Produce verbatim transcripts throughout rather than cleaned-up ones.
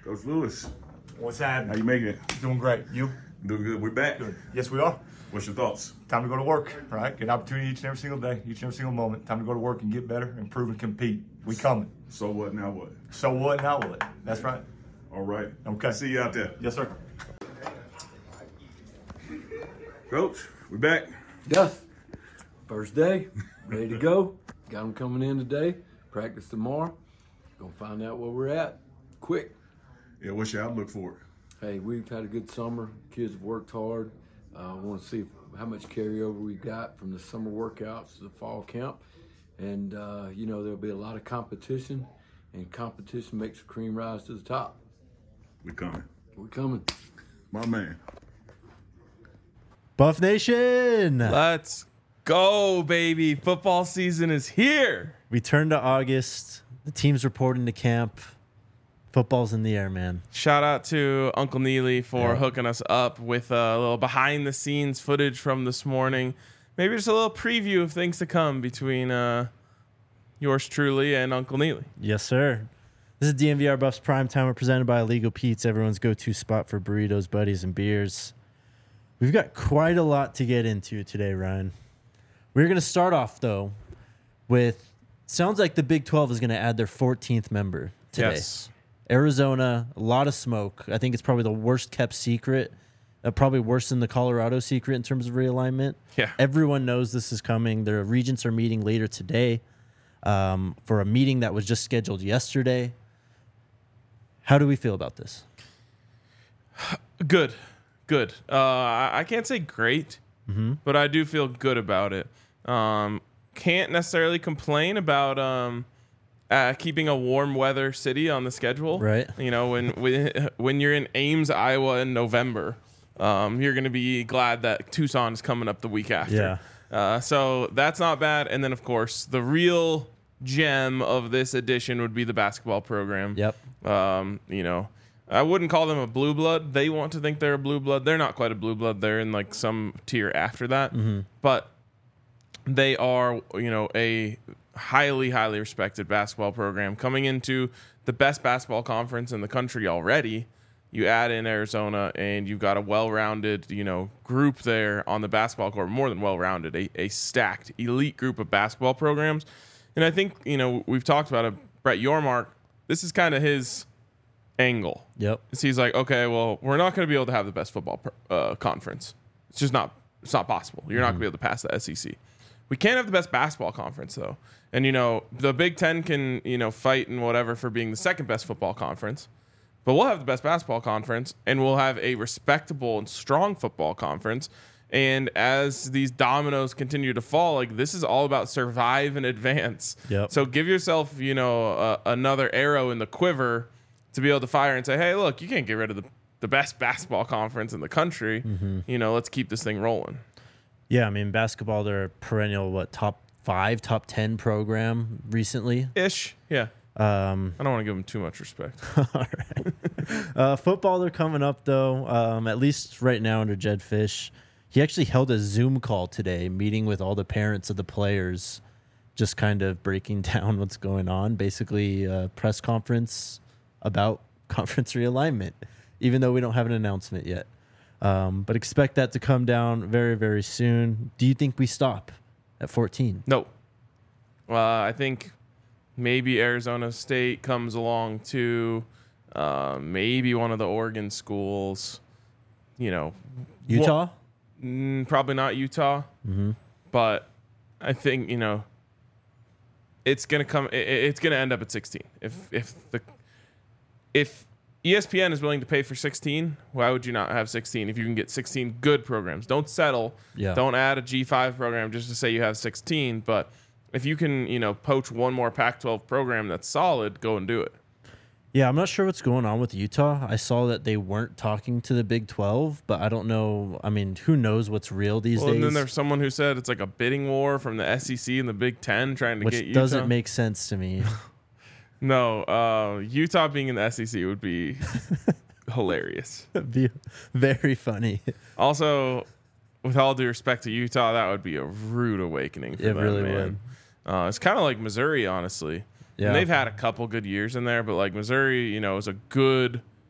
Coach Lewis, What's happening? how you making it? Doing great. You? Doing good. We're back. Good. Yes, we are. What's your thoughts? Time to go to work, right? Get an opportunity each and every single day, each and every single moment. Time to go to work and get better, improve, and compete. We coming. So what, now what? So what, now what? That's right. All right. Okay. See you out there. Yes, sir. Coach, we back. Yes. First day, ready to go. Got them coming in today. Practice tomorrow. Gonna find out where we're at quick. Yeah, what's your outlook for it? Hey, we've had a good summer. Kids have worked hard. I uh, want to see how much carryover we've got from the summer workouts to the fall camp. And, uh, you know, there'll be a lot of competition, and competition makes the cream rise to the top. We coming. We're coming. My man. Buff Nation! Let's go, baby. Football season is here. We turn to August. The team's reporting to camp. Football's in the air, man. Shout out to Uncle Neely for Yeah. hooking us up with a little behind the scenes footage from this morning. Maybe just a little preview of things to come between uh, yours truly and Uncle Neely. Yes, sir. This is D N V R Buffs Prime Time. We're presented by Illegal Pete's, everyone's go-to spot for burritos, buddies, and beers. We've got quite a lot to get into today, Ryan. We're going to start off, though, with sounds like the Big twelve is going to add their fourteenth member today. Yes. Arizona, a lot of smoke. I think it's probably the worst kept secret, uh, probably worse than the Colorado secret in terms of realignment. Yeah. Everyone knows this is coming. The regents are meeting later today um, for a meeting that was just scheduled yesterday. How do we feel about this? Good. Good. Uh, I, I can't say great, Mm-hmm. but I do feel good about it. Um, can't necessarily complain about um, uh, keeping a warm weather city on the schedule. Right. You know, when when, when you're in Ames, Iowa in November, um, you're going to be glad that Tucson is coming up the week after. Yeah. Uh, so that's not bad. And then, of course, the real gem of this edition would be the basketball program. Yep. Um, you know, I wouldn't call them a blue blood. They want to think they're a blue blood. They're not quite a blue blood. They're in like some tier after that. Mm-hmm. But they are, you know, a highly, highly respected basketball program coming into the best basketball conference in the country already. You add in Arizona and you've got a well-rounded, you know, group there on the basketball court, more than well-rounded, a, a stacked elite group of basketball programs. And I think, you know, we've talked about it. Brett Yormark, this is kind of his angle. Yep. So he's like, okay, well, we're not going to be able to have the best football uh, conference. It's just not, it's not possible. You're mm-hmm. not going to be able to pass the S E C. We can't have the best basketball conference, though. And, you know, the Big Ten can, you know, fight and whatever for being the second best football conference. But we'll have the best basketball conference, and we'll have a respectable and strong football conference. And as these dominoes continue to fall, like, this is all about survive and advance. Yep. So give yourself, you know, uh, another arrow in the quiver to be able to fire and say, hey, look, you can't get rid of the, the best basketball conference in the country. Mm-hmm. You know, let's keep this thing rolling. Yeah, I mean, basketball, they're a perennial, what, top five, top ten program recently? Ish, yeah. Um, I don't want to give them too much respect. all right. uh, football, they're coming up, though, um, at least right now under Jedd Fisch. He actually held a Zoom call today, meeting with all the parents of the players, just kind of breaking down what's going on. Basically, a press conference about conference realignment, even though we don't have an announcement yet. Um, but expect that to come down very, very soon. Do you think we stop at fourteen? No. Uh, I think maybe Arizona State comes along too. Uh, maybe one of the Oregon schools. You know, Utah? Mm, probably not Utah. Mm-hmm. But I think, you know, it's gonna come. It, it's gonna end up at sixteen. If if the if E S P N is willing to pay for sixteen, why would you not have sixteen if you can get sixteen good programs? Don't settle. Yeah. Don't add a G five program just to say you have sixteen. But if you can, you know, poach one more Pac twelve program that's solid, go and do it. Yeah, I'm not sure what's going on with Utah. I saw that they weren't talking to the Big twelve, but I don't know. I mean, who knows what's real these well, days? And then there's someone who said it's like a bidding war from the S E C and the Big Ten trying to which get Utah. doesn't make sense to me. No, uh, Utah being in the S E C would be hilarious. It'd be very funny. Also, with all due respect to Utah, that would be a rude awakening for It them, really man. Uh, it's kind of like Missouri, honestly. Yeah. And they've had a couple good years in there, but like Missouri, you know, is a good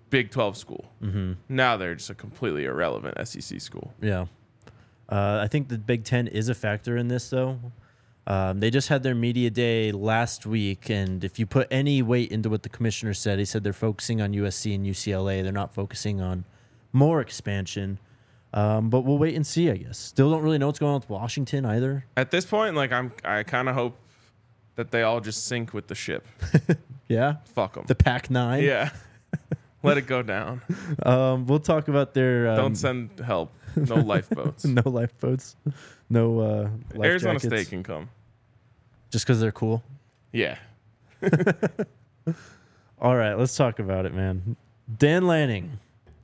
Big twelve school. Mm-hmm. Now they're just a completely irrelevant S E C school. Yeah. Uh, I think the Big Ten is a factor in this, though. Um, they just had their media day last week, and if you put any weight into what the commissioner said, he said they're focusing on U S C and U C L A. They're not focusing on more expansion. Um, but we'll wait and see, I guess. Still don't really know what's going on with Washington either. At this point, like I'm, I kind of hope that they all just sink with the ship. Yeah? Fuck them. The Pac nine? Yeah. Let it go down. Um, we'll talk about their... Um, Don't send help. No lifeboats. no lifeboats. No uh, life Arizona jackets. State can come. Just because they're cool? Yeah. All right, let's talk about it, man. Dan Lanning.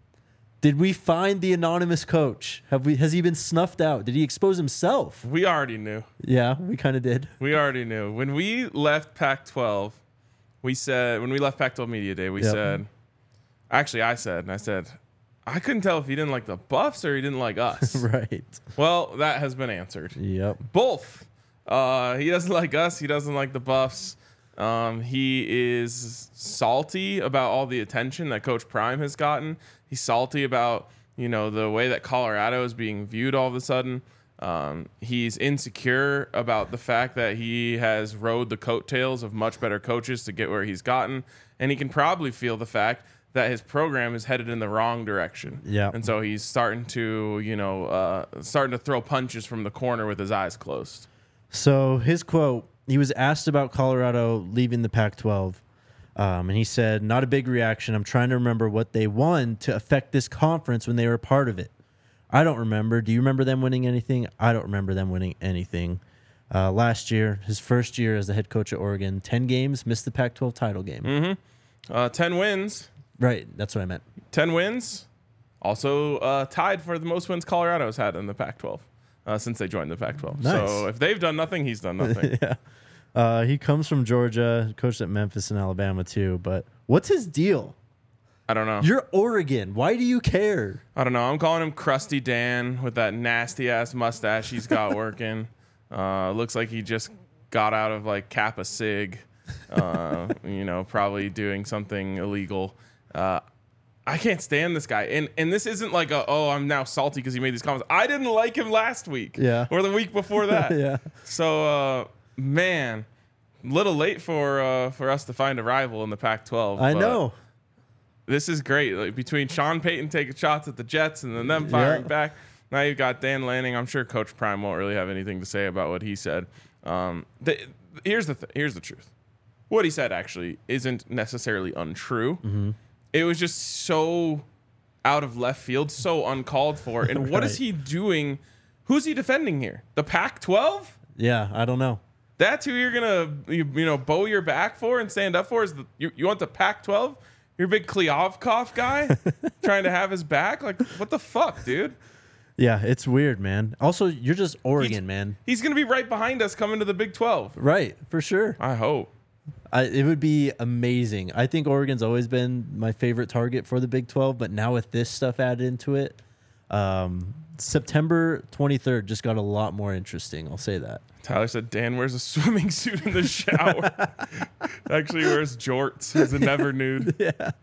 Did we find the anonymous coach? Have we? Has he been snuffed out? Did he expose himself? We already knew. Yeah, we kind of did. We already knew. When we left Pac twelve, we said, when we left Pac twelve Media Day, we Yep. said, actually, I said, and I said, I couldn't tell if he didn't like the Buffs or he didn't like us. Right. Well, that has been answered. Yep. Both. Uh, he doesn't like us. He doesn't like the Buffs. Um, he is salty about all the attention that Coach Prime has gotten. He's salty about, you know, the way that Colorado is being viewed all of a sudden. Um, he's insecure about the fact that he has rode the coattails of much better coaches to get where he's gotten. And he can probably feel the fact that his program is headed in the wrong direction. Yeah. And so he's starting to, you know, uh, starting to throw punches from the corner with his eyes closed. So his quote, he was asked about Colorado leaving the Pac twelve, um, and he said, not a big reaction. I'm trying to remember what they won to affect this conference when they were a part of it. I don't remember. Do you remember them winning anything? I don't remember them winning anything. Uh, last year, his first year as the head coach at Oregon, ten games, missed the Pac twelve title game. Mm-hmm. Uh, ten wins. Right, that's what I meant. ten wins. Also uh, tied for the most wins Colorado's had in the Pac twelve uh, since they joined the Pac twelve. Nice. So if they've done nothing, he's done nothing. Yeah. Uh, he comes from Georgia, coached at Memphis and Alabama too. But what's his deal? I don't know. You're Oregon. Why do you care? I don't know. I'm calling him Krusty Dan with that nasty ass mustache he's got working. Uh, looks like he just got out of like Kappa Sig. Uh, you know, probably doing something illegal. Uh, I can't stand this guy. And and this isn't like a, oh, I'm now salty because he made these comments. I didn't like him last week. Yeah. Or the week before that. Yeah. So, uh, man, little late for uh, for us to find a rival in the Pac twelve. I but know. This is great. Like between Sean Payton taking shots at the Jets and then them firing Yeah. back. Now you've got Dan Lanning. I'm sure Coach Prime won't really have anything to say about what he said. Um, the, here's the th- here's the truth. What he said actually isn't necessarily untrue. Mm-hmm. It was just so out of left field, so uncalled for. And what is Right. he doing? Who's he defending here? The Pac twelve? Yeah, I don't know. That's who you're gonna you, you know bow your back for and stand up for? Is the, you, you want the Pac twelve? You're a big Kliavkov guy trying to have his back? Like, what the fuck, dude? Yeah, it's weird, man. Also, you're just Oregon, He's- man. He's gonna be right behind us coming to the Big twelve. Right, for sure. I hope. I, it would be amazing. I think Oregon's always been my favorite target for the Big twelve, but now with this stuff added into it, um, September twenty-third just got a lot more interesting. I'll say that. Tyler said Dan wears a swimming suit in the shower. Actually wears jorts. He's a never nude. Yeah.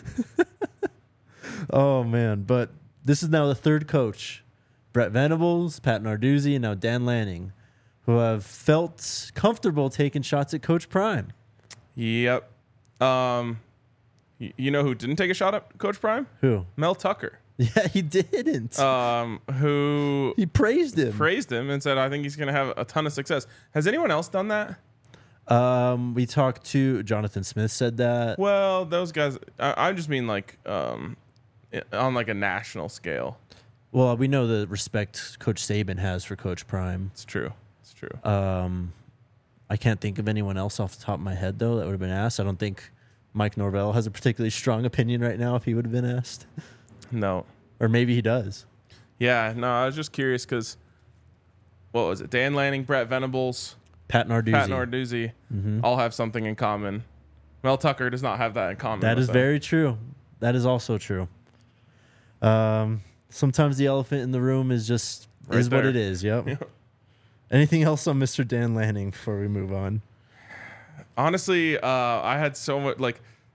Oh, man. But this is now the third coach. Brett Venables, Pat Narduzzi, and now Dan Lanning, who have felt comfortable taking shots at Coach Prime. Yep. Um, y- you know who didn't take a shot at Coach Prime? Who? Mel Tucker. Yeah, he didn't. Um, who he praised him. praised him and said, I think he's going to have a ton of success. Has anyone else done that? Um, we talked to Jonathan Smith said that. Well, those guys, I, I just mean like um, i- on like a national scale. Well, we know the respect Coach Saban has for Coach Prime. It's true. It's true. Um, I can't think of anyone else off the top of my head, though, that would have been asked. I don't think Mike Norvell has a particularly strong opinion right now if he would have been asked. No. Or maybe he does. Yeah, no, I was just curious because, what was it? Dan Lanning, Brett Venables, Pat Narduzzi. Pat Narduzzi all have something in common. Mel Tucker does not have that in common. That with is them. very true. That is also true. Um, sometimes the elephant in the room is just Right is what there. it is. Yep. Yeah. Anything else on Mister Dan Lanning before we move on? Honestly, uh, I had so much like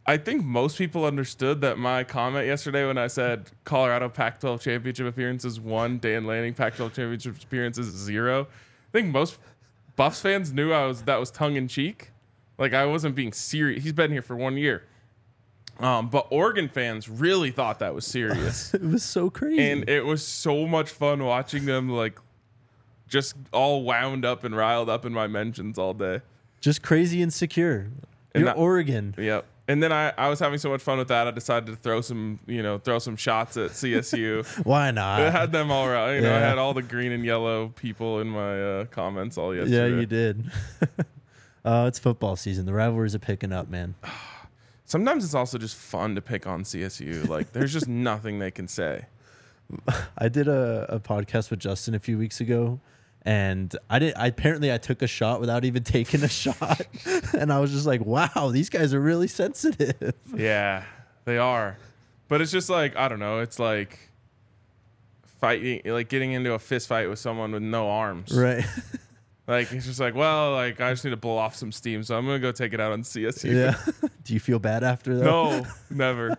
I think most people understood that my comment yesterday when I said Colorado Pac twelve championship appearances one, Dan Lanning Pac twelve championship appearances zero. I think most Buffs fans knew I was that was tongue in cheek. Like I wasn't being serious. He's been here for one year. Um, but Oregon fans really thought that was serious. It was so crazy. And it was so much fun watching them like just all wound up and riled up in my mentions all day. Just crazy and secure. And You're that- Oregon. Yep. And then I, I was having so much fun with that. I decided to throw some, you know, throw some shots at C S U. Why I not? had them all right. You know, I Yeah. had all the green and yellow people in my uh, comments all yesterday. Yeah, you did. uh, it's football season. The rivalries are picking up, man. Sometimes it's also just fun to pick on C S U. Like, there's just nothing they can say. I did a, a podcast with Justin a few weeks ago, and I did. I, apparently, I took a shot without even taking a shot, and I was just like, "Wow, these guys are really sensitive." Yeah, they are. But it's just like, I don't know. It's like fighting, like getting into a fist fight with someone with no arms. Right? Like, it's just like, well, like, I just need to blow off some steam, so I'm going to go take it out on C S U. Yeah. Do you feel bad after that? No, never.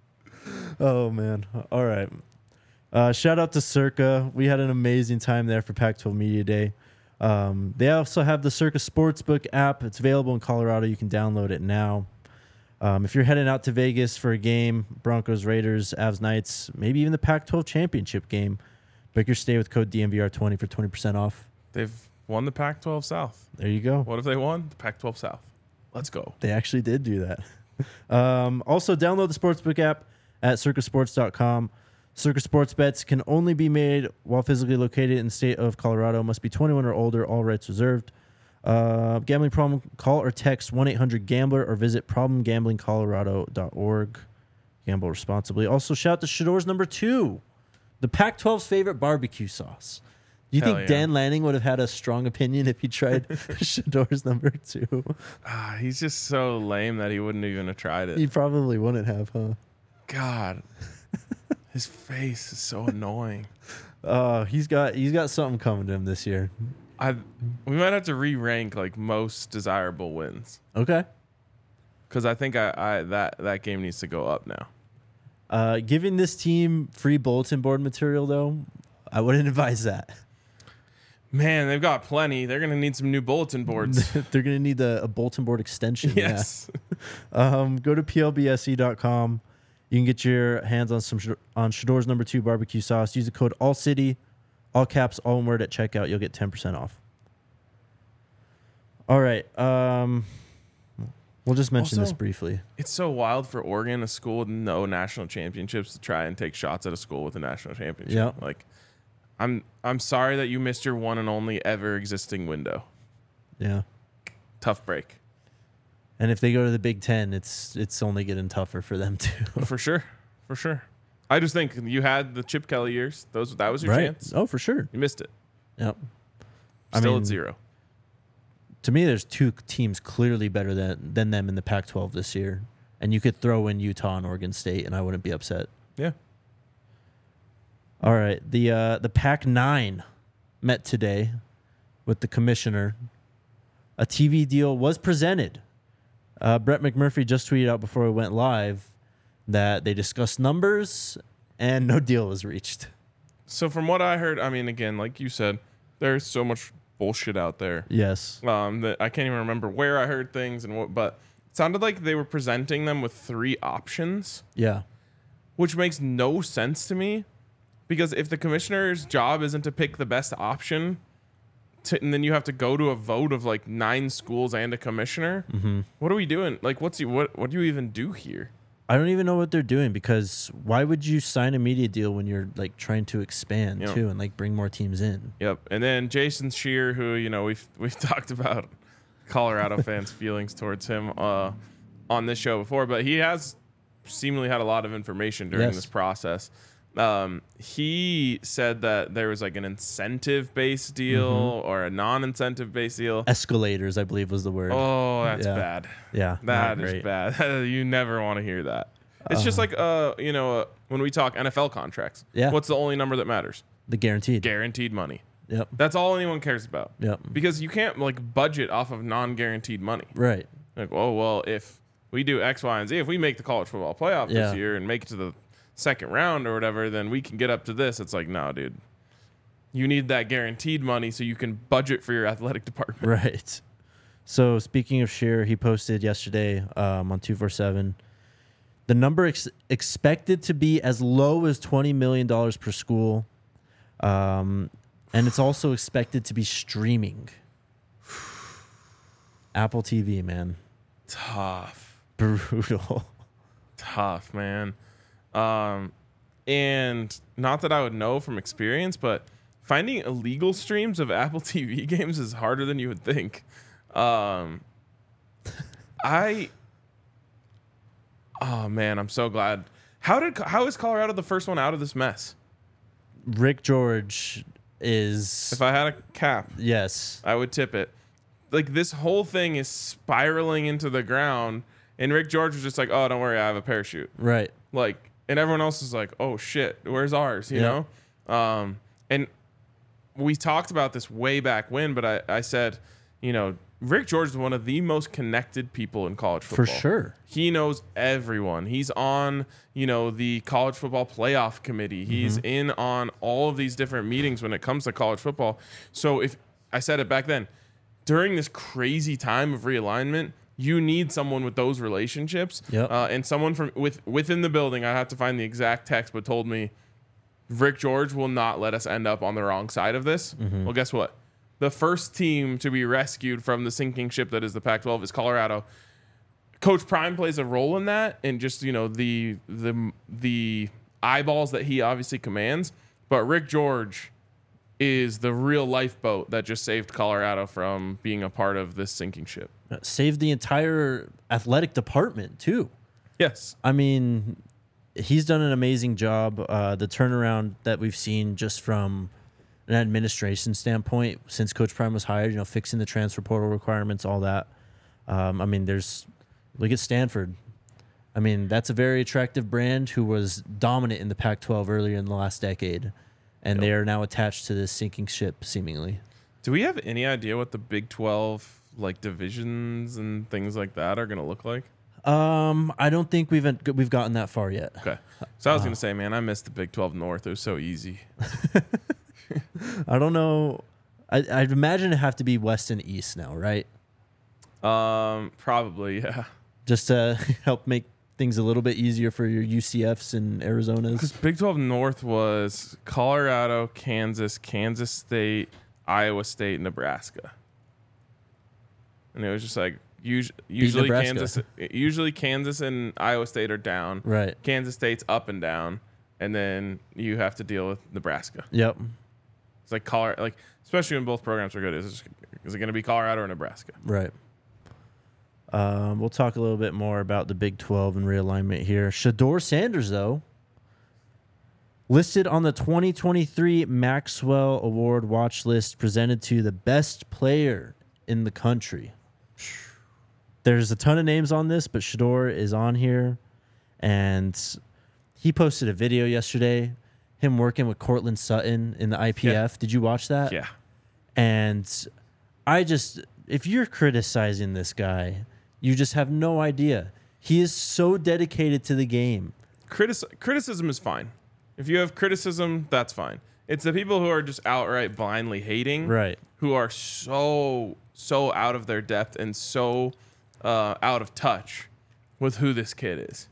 Oh man. All right. Uh, shout out to Circa. We had an amazing time there for Pac twelve Media Day. Um, they also have the Circa Sportsbook app. It's available in Colorado. You can download it now. Um, if you're heading out to Vegas for a game, Broncos, Raiders, Avs, Knights, maybe even the Pac twelve championship game, book your stay with code D M V R twenty for twenty percent off. They've won the Pac twelve South. There you go. What if they won? The Pac twelve South. Let's go. They actually did do that. um, also, download the Sportsbook app at circa sports dot com. Circa Sports bets can only be made while physically located in the state of Colorado. Must be twenty-one or older. All rights reserved. Uh, gambling problem? Call or text one eight hundred gambler or visit problem gambling colorado dot org. Gamble responsibly. Also, shout out to Shador's number two, the Pac twelve's favorite barbecue sauce. Do you Hell think yeah. Dan Lanning would have had a strong opinion if he tried Shador's number two? Ah, he's just so lame that he wouldn't even have tried it. He probably wouldn't have, huh? God. His face is so annoying. Uh, he's got he's got something coming to him this year. I we might have to re-rank like most desirable wins Okay. because I think I, I that that game needs to go up now. Uh, giving this team free bulletin board material, though, I wouldn't advise that. Man, they've got plenty. They're gonna need some new bulletin boards. They're going to need a, a bulletin board extension. Yes. Yeah. Um, go to P L B S E dot com. You can get your hands on some Shad- on Shador's number two barbecue sauce. Use the code ALLCITY, all caps, all one word at checkout. You'll get ten percent off. All right. Um, we'll just mention Also- this briefly. It's so wild for Oregon, a school with no national championships, to try and take shots at a school with a national championship. Yeah. Like, I'm I'm sorry that you missed your one and only ever existing window. Yeah. Tough break. And if they go to the Big Ten, it's it's only getting tougher for them too. For sure. For sure. I just think you had the Chip Kelly years. Those that was your Right? chance. Oh, for sure. You missed it. Yep. I Still mean, at zero. To me, there's two teams clearly better than than them in the Pac twelve this year, and you could throw in Utah and Oregon State, and I wouldn't be upset. Yeah. All right, the uh, the Pac nine met today with the commissioner. A T V deal was presented. Uh, Brett McMurphy just tweeted out before we went live that they discussed numbers and no deal was reached. So from what I heard, I mean, again, like you said, there's so much bullshit out there. Yes. Um, that I can't even remember where I heard things and what, but it sounded like they were presenting them with three options, Yeah. which makes no sense to me. Because if the commissioner's job isn't to pick the best option, to, and then you have to go to a vote of like nine schools and a commissioner, Mm-hmm. what are we doing? Like, what's he, what what do you even do here? I don't even know what they're doing because why would you sign a media deal when you're like trying to expand Yeah. too and like bring more teams in? Yep. And then Jason Shear, who you know we've we've talked about Colorado fans' feelings towards him uh, on this show before, but he has seemingly had a lot of information during Yes. this process. Um, he said that there was like an incentive-based deal Mm-hmm. or a non-incentive based deal. Escalators, I believe, was the word. Oh, that's Yeah. bad. yeah, That not is great. bad. You never want to hear that. It's just like uh, you know, uh, when we talk N F L contracts. Yeah. What's the only number that matters? The guaranteed. Guaranteed money. Yep. That's all anyone cares about. Yep. Because you can't like budget off of non-guaranteed money. Right. Like, oh well, if we do X, Y, and Z. If we make the college football playoff Yeah. this year and make it to the second round or whatever, then we can get up to this. It's like, no, dude. You need that guaranteed money so you can budget for your athletic department. Right. So speaking of Scheer, he posted yesterday um, on two forty-seven, the number ex- expected to be as low as twenty million dollars per school. Um, and it's also expected to be streaming. Apple T V, man. Tough. Brutal. Tough, man. Um, and not that I would know from experience, but finding illegal streams of Apple T V games is harder than you would think. Um, I, oh man, I'm so glad. How did how is Colorado the first one out of this mess? Rick George is, If I had a cap, yes. I would tip it. Like, this whole thing is spiraling into the ground, and Rick George was just like, "Oh, don't worry, I have a parachute." Right. Like, and everyone else is like, "Oh shit, where's ours?" You Yeah. know. Um, and we talked about this way back when, but I, I said, you know, Rick George is one of the most connected people in college football. For sure. He knows everyone. He's on, you know, the college football playoff committee. He's Mm-hmm. in on all of these different meetings when it comes to college football. So if I said it back then, during this crazy time of realignment, you need someone with those relationships. Yep. Uh, and someone from with within the building, I have to find the exact text, but told me Rick George will not let us end up on the wrong side of this. Mm-hmm. Well, guess what? The first team to be rescued from the sinking ship that is the Pac twelve is Colorado. Coach Prime plays a role in that, and just, you know, the the the eyeballs that he obviously commands. But Rick George is the real lifeboat that just saved Colorado from being a part of this sinking ship. Saved the entire athletic department, too. Yes. I mean, he's done an amazing job. Uh, the turnaround that we've seen just from an administration standpoint since Coach Prime was hired, you know, fixing the transfer portal requirements, all that. Um, I mean, there's look at Stanford. I mean, that's a very attractive brand who was dominant in the Pac twelve earlier in the last decade, and Yep. they are now attached to this sinking ship, seemingly. Do we have any idea what the Big twelve like divisions and things like that are going to look like? Um, I don't think we've we've gotten that far yet. Okay. So I was going to say, man, I missed the Big twelve North. It was so easy. I don't know. I, I'd imagine it have to be West and East now, right? Um, probably, yeah. Just to help make things a little bit easier for your U C Fs and Arizonas. Because Big twelve North was Colorado, Kansas, Kansas State, Iowa State, Nebraska. And it was just like usually, usually Nebraska. Kansas, usually Kansas and Iowa State are down. Right. Kansas State's up and down, and then you have to deal with Nebraska. Yep. It's like Colorado, like especially when both programs are good. Is it, is it going to be Colorado or Nebraska? Right. Um, we'll talk a little bit more about the Big twelve and realignment here. Shador Sanders, though, listed on the twenty twenty-three Maxwell Award watch list, presented to the best player in the country. There's a ton of names on this, but Shador is on here, and he posted a video yesterday, him working with Cortland Sutton in the I P F. Yeah. Did you watch that? Yeah. And I just, if you're criticizing this guy, you just have no idea. He is so dedicated to the game. Critis- criticism is fine. If you have criticism, that's fine. It's the people who are just outright blindly hating, Right. who are so, so out of their depth and so uh, out of touch with who this kid is.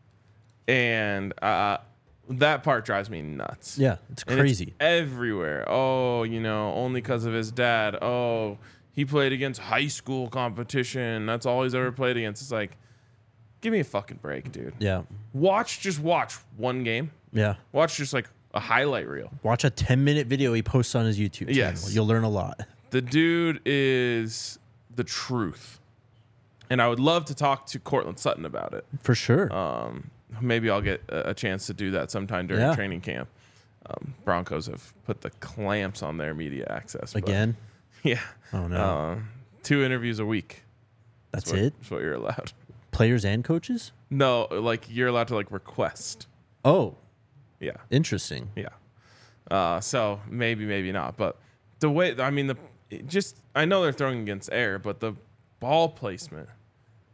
And uh, that part drives me nuts. Yeah, it's And crazy. it's everywhere. Oh, you know, only because of his dad. Oh, he played against high school competition. That's all he's ever played against. It's like, give me a fucking break, dude. yeah. Watch, just watch one game. Yeah. Watch just like a highlight reel. Watch a ten-minute video he posts on his YouTube channel. Yes. You'll learn a lot. The dude is the truth. And I would love to talk to Cortland Sutton about it. For sure. Um, maybe I'll get a, a chance to do that sometime during Yeah. training camp. Um, Broncos have put the clamps on their media access. but- Again? Yeah. Oh, no. Uh, two interviews a week. That's what, it? That's what you're allowed. Players and coaches? No, like you're allowed to like request. Oh, Yeah. interesting. Yeah. Uh, so maybe, maybe not. But the way, I mean, the it just, I know they're throwing against air, but the ball placement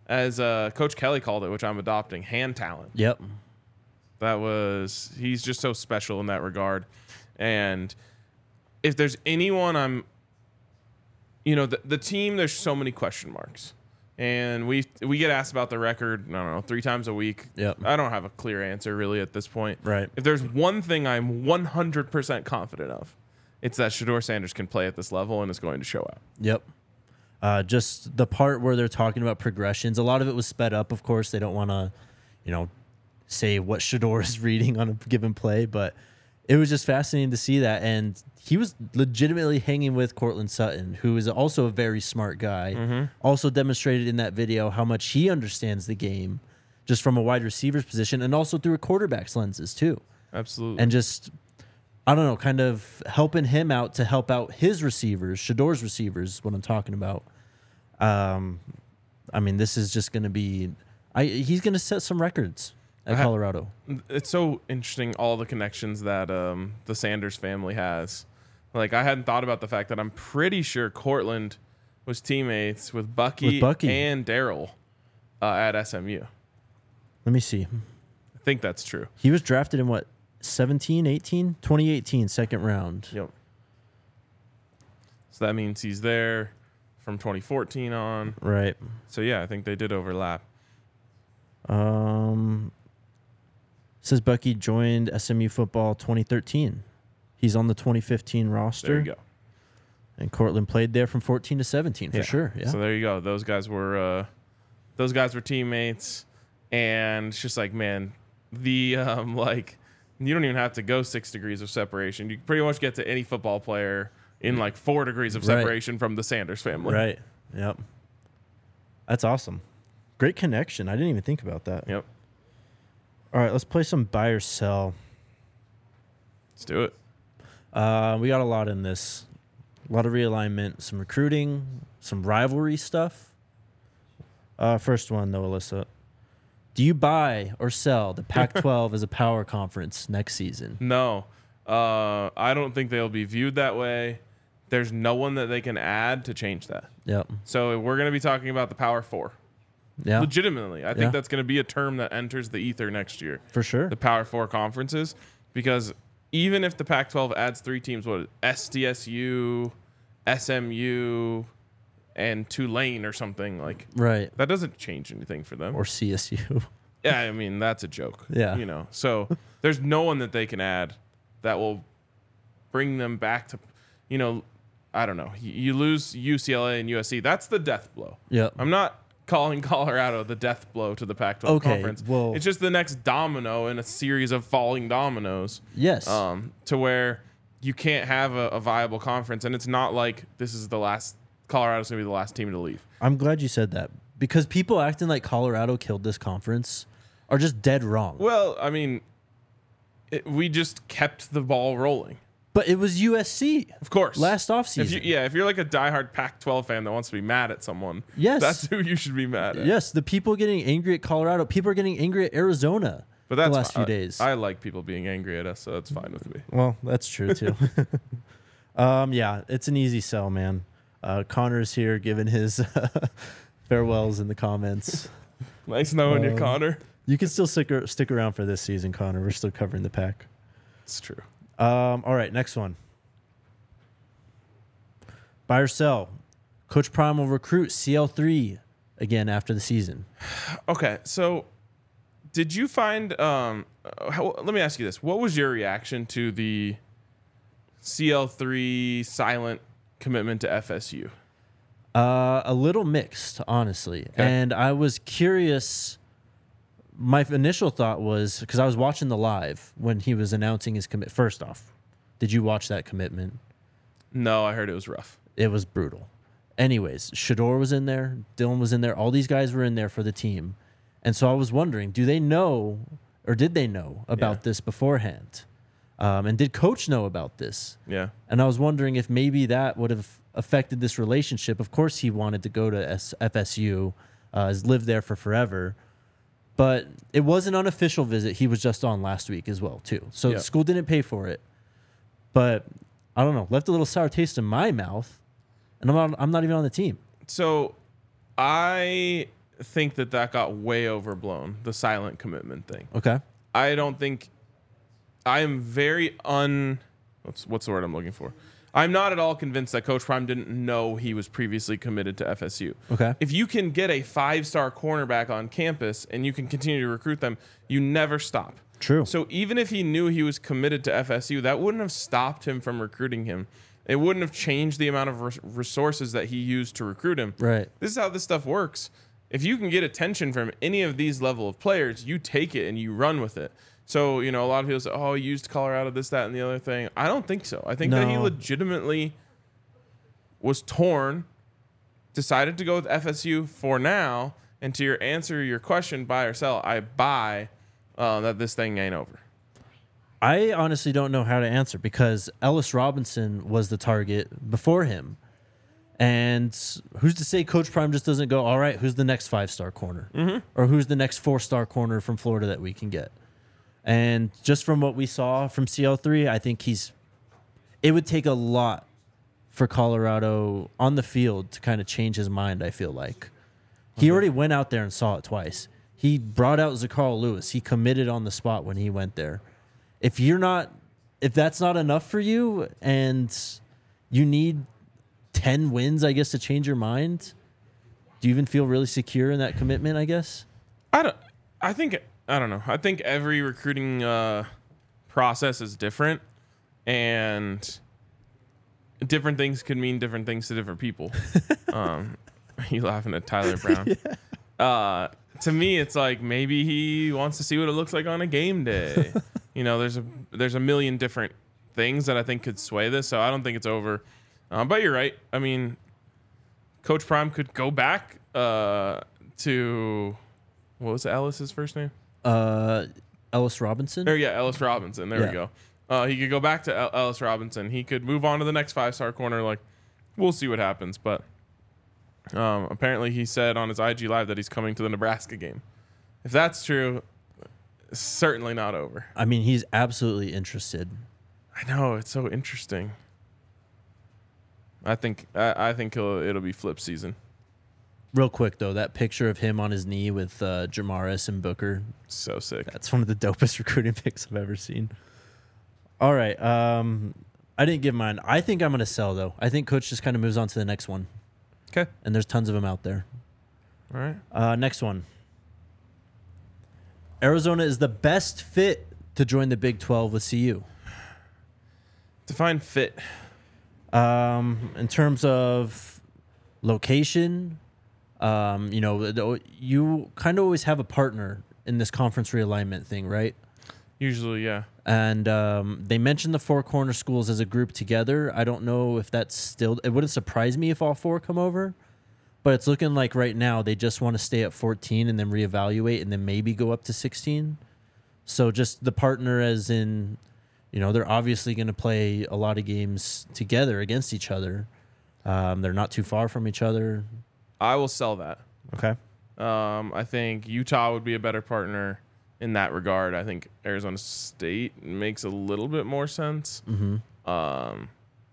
as uh, Coach Kelly called it, which I'm adopting, hand talent. Yep. That was he's just so special in that regard. And if there's anyone I'm, you know, the, the team, there's so many question marks. And we we get asked about the record, I don't know, three times a week. Yep. I don't have a clear answer really at this point. Right. If there's one thing I'm one hundred percent confident of, it's that Shedeur Sanders can play at this level and is going to show out. Yep. Uh, just the part where they're talking about progressions, a lot of it was sped up. Of course, they don't want to, you know, say what Shedeur is reading on a given play, but it was just fascinating to see that. And he was legitimately hanging with Courtland Sutton, who is also a very smart guy. Mm-hmm. Also demonstrated in that video how much he understands the game just from a wide receiver's position and also through a quarterback's lenses too. Absolutely. And just, I don't know, kind of helping him out to help out his receivers, Shedeur's receivers is what I'm talking about. Um, I mean, this is just going to be, I he's going to set some records at ha- Colorado. It's so interesting, all the connections that um, the Sanders family has. Like, I hadn't thought about the fact that I'm pretty sure Courtland was teammates with Bucky, With Bucky. and Daryl uh, at S M U. Let me see. I think that's true. He was drafted in what, seventeen, eighteen? twenty eighteen, second round. Yep. So that means he's there from twenty fourteen on. Right. So, yeah, I think they did overlap. Um, says Bucky joined S M U football twenty thirteen. He's on the twenty fifteen roster. There you go. And Courtland played there from fourteen to seventeen, for Yeah. sure. Yeah. So there you go. Those guys were uh, those guys were teammates, and it's just like, man, the um, like you don't even have to go six degrees of separation. You can pretty much get to any football player in like four degrees of Right. separation from the Sanders family. Right. Yep. That's awesome. Great connection. I didn't even think about that. Yep. All right, let's play some buy or sell. Let's do it. Uh, we got a lot in this. A lot of realignment, some recruiting, some rivalry stuff. Uh, first one, though, Alyssa. Do you buy or sell the Pac twelve as a power conference next season? No, uh, I don't think they'll be viewed that way. There's no one that they can add to change that. Yep. So we're going to be talking about the Power Four. Yeah, Legitimately, I think Yeah. that's going to be a term that enters the ether next year. for sure. The Power Four conferences, because even if the Pac twelve adds three teams, what S D S U, S M U, and Tulane or something, like Right. that doesn't change anything for them. Or C S U. Yeah, I mean that's a joke. Yeah. you know. So there's no one that they can add that will bring them back to, you know, I don't know. You, you lose U C L A and U S C. That's the death blow. Yep. I'm not calling Colorado the death blow to the Pac twelve Okay, conference. well- it's just the next domino in a series of falling dominoes. Yes. Um, to where you can't have a, a viable conference, and it's not like this is the last. Colorado's gonna be the last team to leave. I'm glad you said that because people acting like Colorado killed this conference are just dead wrong. Well, I mean, it, we just kept the ball rolling. But it was U S C Of course. last If offseason. you, yeah, if you're like a diehard Pac twelve fan that wants to be mad at someone, Yes. that's who you should be mad at. Yes, the people getting angry at Colorado, people are getting angry at Arizona but that's the last fi- few days. I, I like people being angry at us, so that's fine with me. Well, that's true too. um, yeah, it's an easy sell, man. Uh, Connor's here giving his farewells in the comments. Nice knowing you, Um, Connor. You can still stick, ar- stick around for this season, Connor. We're still covering the pack. It's true. Um, all right, next one. Buy or sell. Coach Prime will recruit C L three again after the season. Okay, so did you find? Um, uh, how, let me ask you this: what was your reaction to the C L three silent commitment to F S U? Uh, a little mixed, honestly. And I was curious. My initial thought was because I was watching the live when he was announcing his commit. First off, did you watch that commitment? No, I heard it was rough. It was brutal. Anyways, Shedeur was in there. Dylan was in there. All these guys were in there for the team. And so I was wondering, do they know or did they know about Yeah. this beforehand? Um, and did Coach know about this? Yeah, And I was wondering if maybe that would have affected this relationship. Of course, he wanted to go to S- F S U, uh, has lived there for forever. But it was an unofficial visit. He was just on last week as well, too. So Yeah. the school didn't pay for it. But I don't know, left a little sour taste in my mouth. And I'm not, I'm not even on the team. so I think that that got way overblown, the silent commitment thing. Okay. I don't think I am very un what's what's the word I'm looking for? I'm not at all convinced that Coach Prime didn't know he was previously committed to F S U. Okay. If you can get a five-star cornerback on campus and you can continue to recruit them, you never stop. True. So even if he knew he was committed to F S U, that wouldn't have stopped him from recruiting him. It wouldn't have changed the amount of res- resources that he used to recruit him. Right. This is how this stuff works. If you can get attention from any of these level of players, you take it and you run with it. So, you know, a lot of people say, oh, he used Colorado, this, that, and the other thing. I don't think so. I think that he No. legitimately was torn, decided to go with F S U for now, and to your answer your question, buy or sell, I buy uh, that this thing ain't over. I honestly don't know how to answer because Ellis Robinson was the target before him. And who's to say Coach Prime just doesn't go, all right, who's the next five-star corner? Mm-hmm. Or who's the next four-star corner from Florida that we can get? And just from what we saw from C L three, I think he's – it would take a lot for Colorado on the field to kind of change his mind, I feel like. He already went out there and saw it twice. He brought out Zacarl Lewis. He committed on the spot when he went there. If you're not – if that's not enough for you and you need ten wins, I guess, to change your mind, do you even feel really secure in that commitment, I guess? I don't. I think. I don't know. I think every recruiting uh, process is different, and different things could mean different things to different people. um, you laughing at Tyler Brown? Yeah. Uh, to me, it's like maybe he wants to see what it looks like on a game day. You know, there's a there's a million different things that I think could sway this, so I don't think it's over. Um, but you're right. I mean, Coach Prime could go back uh, to what was Ellis's first name? Uh, Ellis Robinson? Or yeah, Ellis Robinson. There Yeah. we go. Uh, he could go back to El- Ellis Robinson. He could move on to the next five-star corner. Like, we'll see what happens. But um, apparently he said on his I G Live that he's coming to the Nebraska game. If that's true, it's certainly not over. I mean, he's absolutely interested. I know. It's so interesting. I think I, I think it'll, it'll be flip season. Real quick, though, that picture of him on his knee with uh, Jamaris and Booker, So sick. that's one of the dopest recruiting picks I've ever seen. All right. Um, I didn't give mine. I think I'm going to sell, though. I think Coach just kind of moves on to the next one. Okay. And there's tons of them out there. All right. Uh, next one. Arizona is the best fit to join the Big twelve with C U. Define fit. Um, in terms of location, um, you know, the- you kind of always have a partner in this conference realignment thing, right? Usually, yeah. And um, they mentioned the four corner schools as a group together. I don't know if that's still. It wouldn't surprise me if all four come over, but it's looking like right now they just want to stay at fourteen and then reevaluate and then maybe go up to sixteen. So just the partner, as in, you know, they're obviously going to play a lot of games together against each other. Um, they're not too far from each other. I will sell that. Okay. Um, I think Utah would be a better partner in that regard. I think Arizona State makes a little bit more sense. Mm-hmm. Um,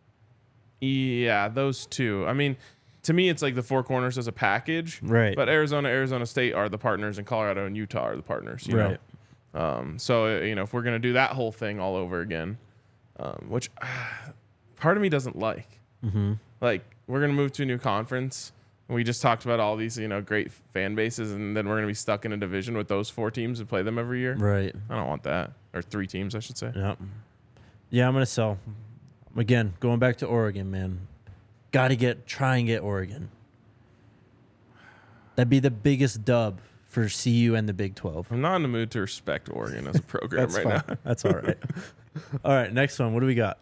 yeah, those two. I mean, to me, it's like the four corners as a package. Right. But Arizona, Arizona State are the partners, and Colorado and Utah are the partners. You Right. know? Um, so, you know, if we're going to do that whole thing all over again, um, which uh, part of me doesn't like. Mm-hmm. Like, we're going to move to a new conference. We just talked about all these, you know, great fan bases, and then we're going to be stuck in a division with those four teams and play them every year. Right. I don't want that. Or three teams, I should say. Yeah. Yeah, I'm going to sell. Again, going back to Oregon, man. Got to get, try and get Oregon. That'd be the biggest dub for C U and the Big twelve. I'm not in the mood to respect Oregon as a program That's right fine. now. That's all right. All right, next one. What do we got?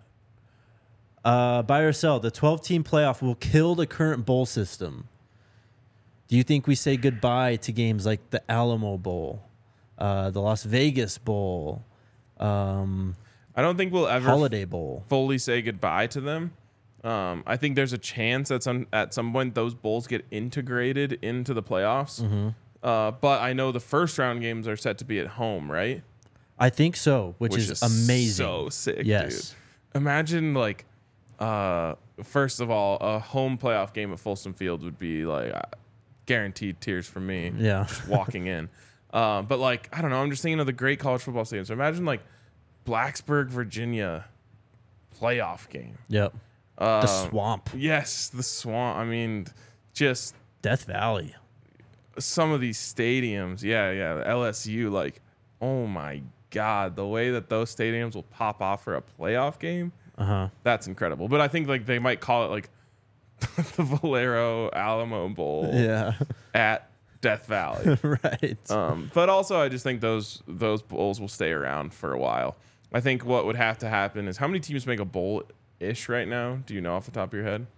Uh, buy or sell. The twelve-team playoff will kill the current bowl system. Do you think we say goodbye to games like the Alamo Bowl, uh, the Las Vegas Bowl, um, I don't think we'll ever Holiday Bowl? fully say goodbye to them. Um, I think there's a chance that some at some point those bowls get integrated into the playoffs. Mm-hmm. Uh, but I know the first round games are set to be at home, right? I think so, which, is, amazing. So sick, Yes. dude. Imagine like, uh, first of all, a home playoff game at Folsom Field would be like uh, guaranteed tears from me. Yeah. Just walking in. Uh, but like, I don't know. I'm just thinking of the great college football stadiums. So imagine like Blacksburg, Virginia playoff game. Yep. Uh, The swamp. Yes, the swamp. I mean, just Death Valley. some of these stadiums. Yeah, yeah. L S U, like, oh my God, the way that those stadiums will pop off for a playoff game, Uh-huh. that's incredible. But I think like they might call it like the Valero Alamo Bowl Yeah. at Death Valley. Right. Um, but also, I just think those those bowls will stay around for a while. I think what would have to happen is how many teams make a bowl ish right now? Do you know off the top of your head?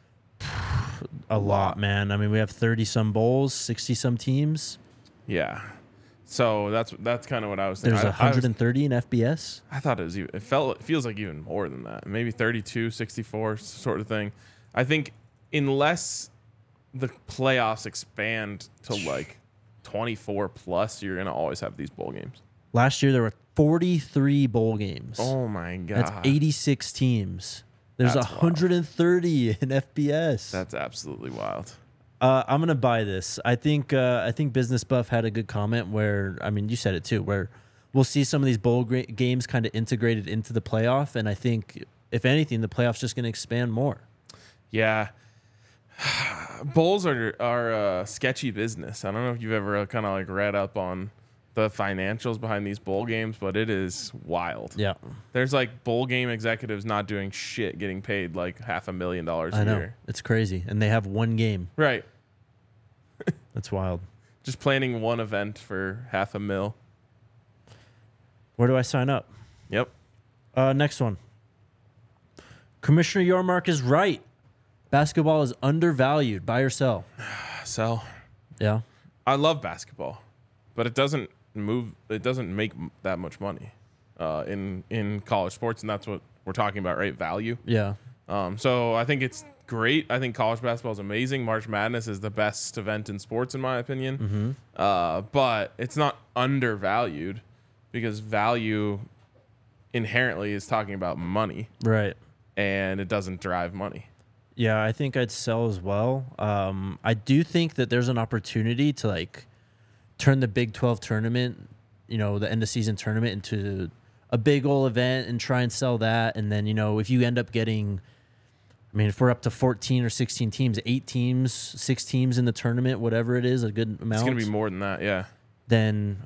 A lot, man. I mean, we have thirty some bowls, sixty some teams. Yeah. So that's that's kind of what I was thinking. There's I, I, was- one hundred thirty in F B S. I thought it was even, it felt it feels like even more than that. Maybe thirty-two, sixty-four sort of thing. I think unless the playoffs expand to like twenty-four plus, you're going to always have these bowl games. Last year there were forty-three bowl games. Oh my God. That's eighty-six teams. There's That's one hundred thirty in F B S. That's absolutely wild. Uh, I'm gonna buy this. I think uh, I think Business Buff had a good comment where, I mean, you said it too, where we'll see some of these bowl gra- games kind of integrated into the playoff, and I think if anything, the playoff's just gonna expand more. Yeah. Bowls are are a sketchy business. I don't know if you've ever kind of like read up on the financials behind these bowl games, but it is wild. Yeah, There's like bowl game executives not doing shit getting paid like half a million dollars a I know year. it's crazy, and they have one game. Right. That's wild. Just planning one event for half a mil. Where do I sign up? Yep. Uh, next one. Commissioner Yormark is right. Basketball is undervalued. Buy or sell? So Yeah. I love basketball, but it doesn't move. It doesn't make m- that much money uh, in in college sports, and that's what we're talking about, right? Value. Yeah. Um, so I think it's great. I think college basketball is amazing. March Madness is the best event in sports, in my opinion. Mm-hmm. Uh, but it's not undervalued because value inherently is talking about money, Right. and it doesn't drive money. Yeah, I think I'd sell as well. Um, I do think that there's an opportunity to like turn the Big twelve tournament, you know, the end of season tournament into a big old event and try and sell that. And then, you know, if you end up getting, I mean, if we're up to fourteen or sixteen teams, eight teams, six teams in the tournament, whatever it is, a good amount. It's going to be more than that, yeah. Then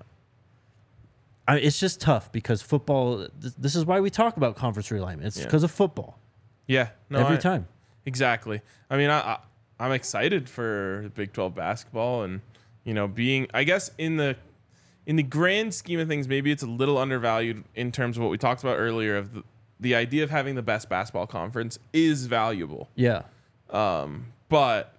I, it's just tough because football, th- this is why we talk about conference realignment. It's Yeah. because of football Yeah, no, every I- time. Exactly. I mean, I, I I'm excited for Big twelve basketball, and you know, being I guess in the in the grand scheme of things, maybe it's a little undervalued in terms of what we talked about earlier. Of the, the idea of having the best basketball conference is valuable, Yeah. um, but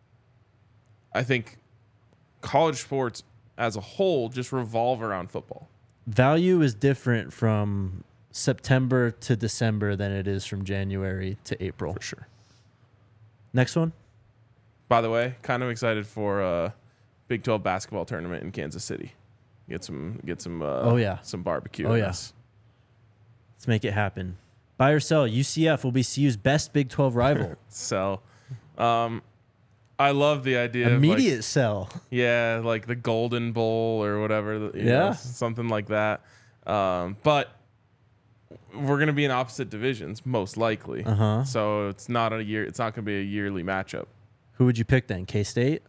I think college sports as a whole just revolve around football. Value is different from September to December than it is from January to April. For sure. Next one. By the way, kind of excited for a Big twelve basketball tournament in Kansas City. Get some, get some. Uh, Oh, yeah. some barbecue. Oh, in yeah. this. Let's make it happen. Buy or sell. U C F will be C U's best Big twelve rival. So, um, I love the idea of Immediate like, sell. yeah, like the Golden Bowl or whatever. you know, Yeah. something like that. Um, but we're gonna be in opposite divisions most likely. Uh huh. So it's not a year. It's not gonna be a yearly matchup. Who would you pick then? K State.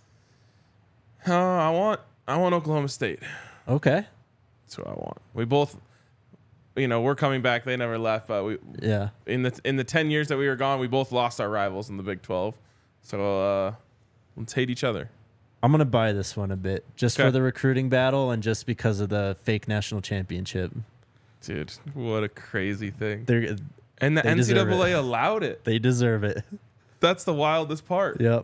Uh, I want I want Oklahoma State. Okay. That's who I want. We both, you know, we're coming back. They never left, but we Yeah. in the in the ten years that we were gone, we both lost our rivals in the Big twelve. So uh, let's hate each other. I'm gonna buy this one a bit just Okay. for the recruiting battle and just because of the fake national championship. Dude, what a crazy thing. They're And the they deserve N C double A it. allowed it. they deserve it. That's the wildest part. Yep.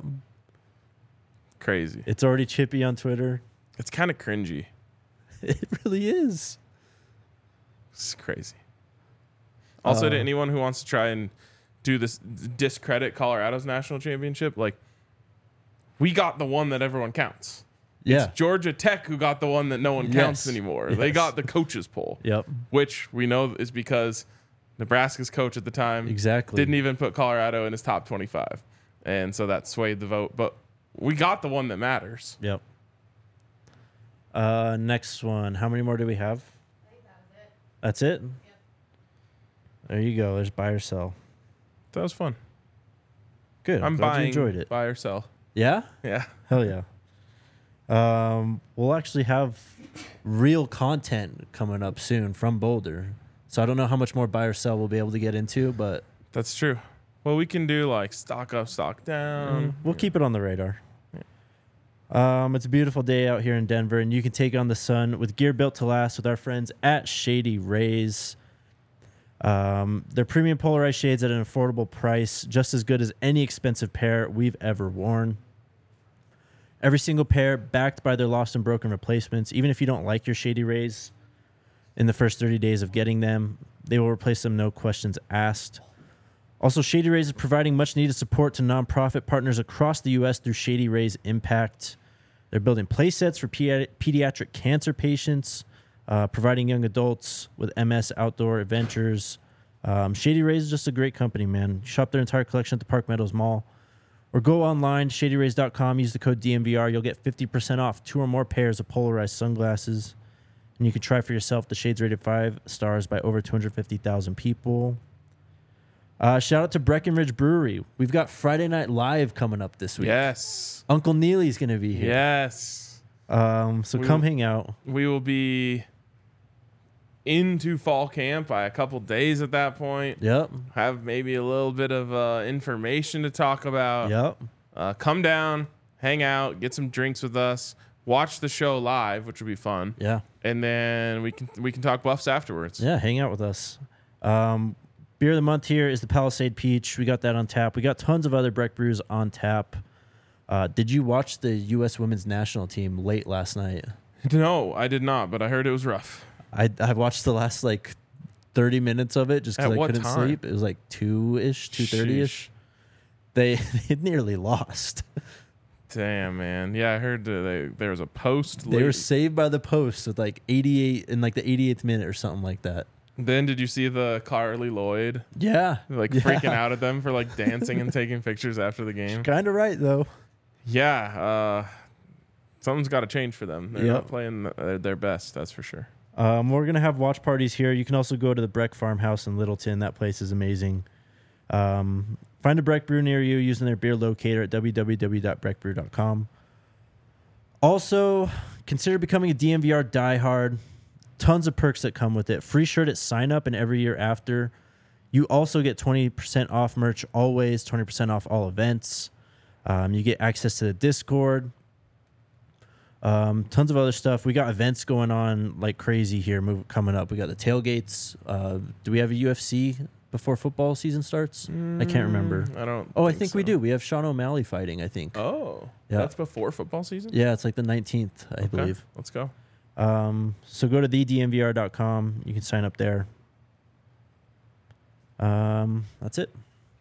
Crazy. It's already chippy on Twitter. It's kind of cringy. It really is. It's crazy. Also, Uh, to anyone who wants to try and do this, discredit Colorado's national championship, like, we got the one that everyone counts. Yeah. It's Georgia Tech who got the one that no one counts Yes. anymore. They Yes. got the coaches poll, Yep. which we know is because Nebraska's coach at the time Exactly. didn't even put Colorado in his top twenty-five. And so that swayed the vote. But we got the one that matters. Yep. Uh, next one. How many more do we have? I think that was it. That's it? Yep. There you go. There's buy or sell. That was fun. Good. I'm, I'm glad buying. you enjoyed it. Buy or sell. Yeah? Yeah. Hell yeah. Um, we'll actually have real content coming up soon from Boulder. So I don't know how much more buy or sell we'll be able to get into, but That's true. Well, we can do like stock up, stock down. we'll keep it on the radar. Um, it's a beautiful day out here in Denver, and you can take on the sun with gear built to last with our friends at Shady Rays. Um, they're premium polarized shades at an affordable price, just as good as any expensive pair we've ever worn. Every single pair backed by their lost and broken replacements. Even if you don't like your Shady Rays in the first thirty days of getting them, they will replace them, no questions asked. Also, Shady Rays is providing much needed support to nonprofit partners across the U S through Shady Rays Impact. They're building play sets for pedi- pediatric cancer patients, uh, providing young adults with M S outdoor adventures. Um, Shady Rays is just a great company, man. Shop their entire collection at the Park Meadows Mall. Or go online, shady rays dot com, use the code D M V R. You'll get fifty percent off two or more pairs of polarized sunglasses. And you can try for yourself the shades rated five stars by over two hundred fifty thousand people. Uh, shout out to Breckenridge Brewery. We've got Friday Night Live coming up this week. Yes. Uncle Neely's going to be here. Yes. Um, so We come will- hang out. We will be into fall camp by a couple days at that point. Yep. Have maybe a little bit of uh, information to talk about. Yep. Uh, come down, hang out, get some drinks with us, watch the show live, which would be fun, Yeah. and then we can we can talk Buffs afterwards. Yeah, hang out with us. Um, beer of the month here is the Palisade Peach. We got that on tap. We got tons of other Breck brews on tap. Uh, did you watch the U S women's national team late last night? No, I did not, but I heard it was rough. I I watched the last like thirty minutes of it just because At I what couldn't time? sleep. It was like two ish, two thirty ish. Sheesh. They they nearly lost. Damn, man. Yeah, I heard that they, there was a post. They were late. saved by the post with like eighty-eight in like the eighty-eighth minute or something like that. Then did you see the Carly Lloyd Yeah, like yeah. freaking out at them for like dancing and taking pictures after the game? Kind of right though. Yeah, uh, something's got to change for them. They're Yep. not playing uh, their best, that's for sure. Um, we're gonna have watch parties here. You can also go to the Breck Farmhouse in Littleton. That place is amazing. Um, find a Breck brew near you using their beer locator at w w w dot breck brew dot com. Also, consider becoming a D M V R diehard. Tons of perks that come with it. Free shirt at sign up and every year after. You also get twenty percent off merch always, twenty percent off all events. Um, you get access to the Discord. Um, tons of other stuff. We got events going on like crazy here move, coming up. We got the tailgates. Uh, do we have a U F C before football season starts? I can't remember. I don't. Oh, I think we so. do. We have Sean O'Malley fighting, I think. Oh, Yeah. that's before football season? Yeah, it's like the nineteenth, I Okay, believe. Let's go. Um, so go to the d m v r dot com. You can sign up there. Um, that's it.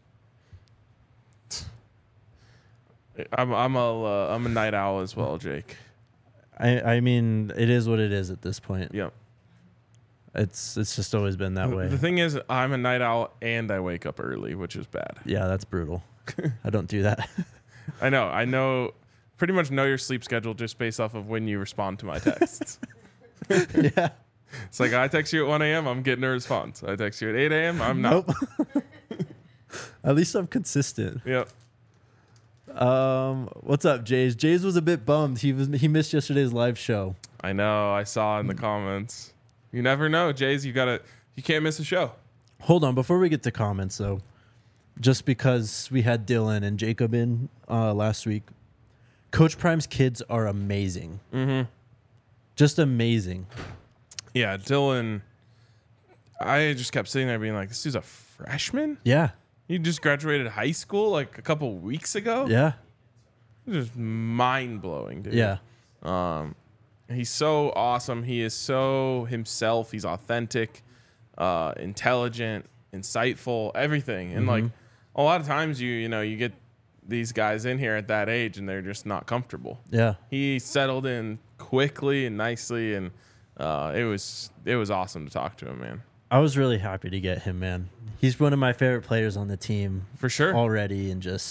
I'm I'm a uh, I'm a night owl as well, Jake. I, I mean, it is what it is at this point. Yep. It's it's just always been that The- way. The thing is, I'm a night owl and I wake up early, which is bad. Yeah, that's brutal. I don't do that. I know. I know. Pretty much know your sleep schedule just based off of when you respond to my texts. Yeah. It's like I text you at one a.m. I'm getting a response. I text you at eight a.m. I'm not. Nope. At least I'm consistent. Yep. Um, what's up, Jays? Jays was a bit bummed. He was he missed yesterday's live show. I know. I saw in the comments. You never know, Jays. You gotta. You can't miss a show. Hold on, before we get to comments though, just because we had Dylan and Jacob in uh, last week, Coach Prime's kids are amazing. Mm-hmm. Just amazing. Yeah, Dylan. I just kept sitting there being like, "This dude's a freshman. Yeah, He just graduated high school like a couple weeks ago. yeah, Just mind blowing, dude. yeah. Um, he's so awesome. He is so himself. He's authentic, uh, intelligent, insightful, everything. And like a lot of times, you you know you get these guys in here at that age, and they're just not comfortable. Yeah. He settled in quickly and nicely, and uh, it was it was awesome to talk to him, man. I was really happy to get him, man. He's one of my favorite players on the team For sure. already, and just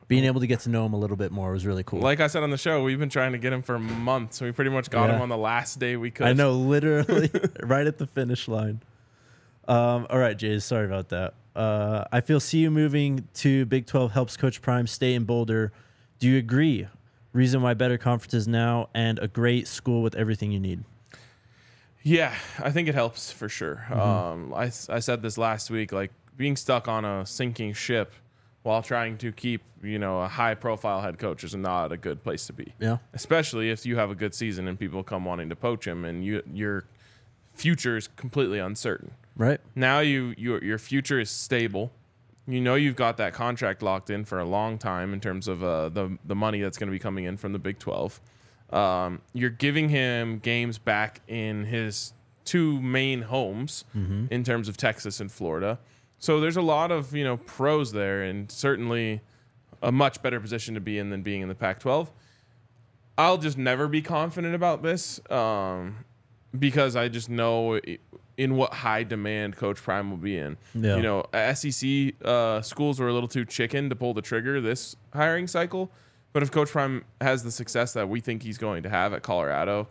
being able to get to know him a little bit more was really cool. Like I said on the show, we've been trying to get him for months. We pretty much got Yeah. him on the last day we could. I know, literally right at the finish line. Um, all right, Jays, sorry about that. Uh, I feel C U moving to Big twelve helps Coach Prime stay in Boulder. Do you agree? Reason why better conferences now and a great school with everything you need. Yeah, I think it helps for sure. Mm-hmm. Um, I, I said this last week, like being stuck on a sinking ship while trying to keep, you know, a high profile head coach is not a good place to be. Yeah. Especially if you have a good season and people come wanting to poach him and you your future is completely uncertain. Right. Now you your your future is stable. You know you've got that contract locked in for a long time in terms of uh, the the money that's going to be coming in from the Big twelve. Um, you're giving him games back in his two main homes Mm-hmm. in terms of Texas and Florida. So there's a lot of, you know, pros there, and certainly a much better position to be in than being in the Pac twelve. I'll just never be confident about this um, because I just know in what high demand Coach Prime will be in. Yeah. You know, S E C uh, schools were a little too chicken to pull the trigger this hiring cycle. But if Coach Prime has the success that we think he's going to have at Colorado,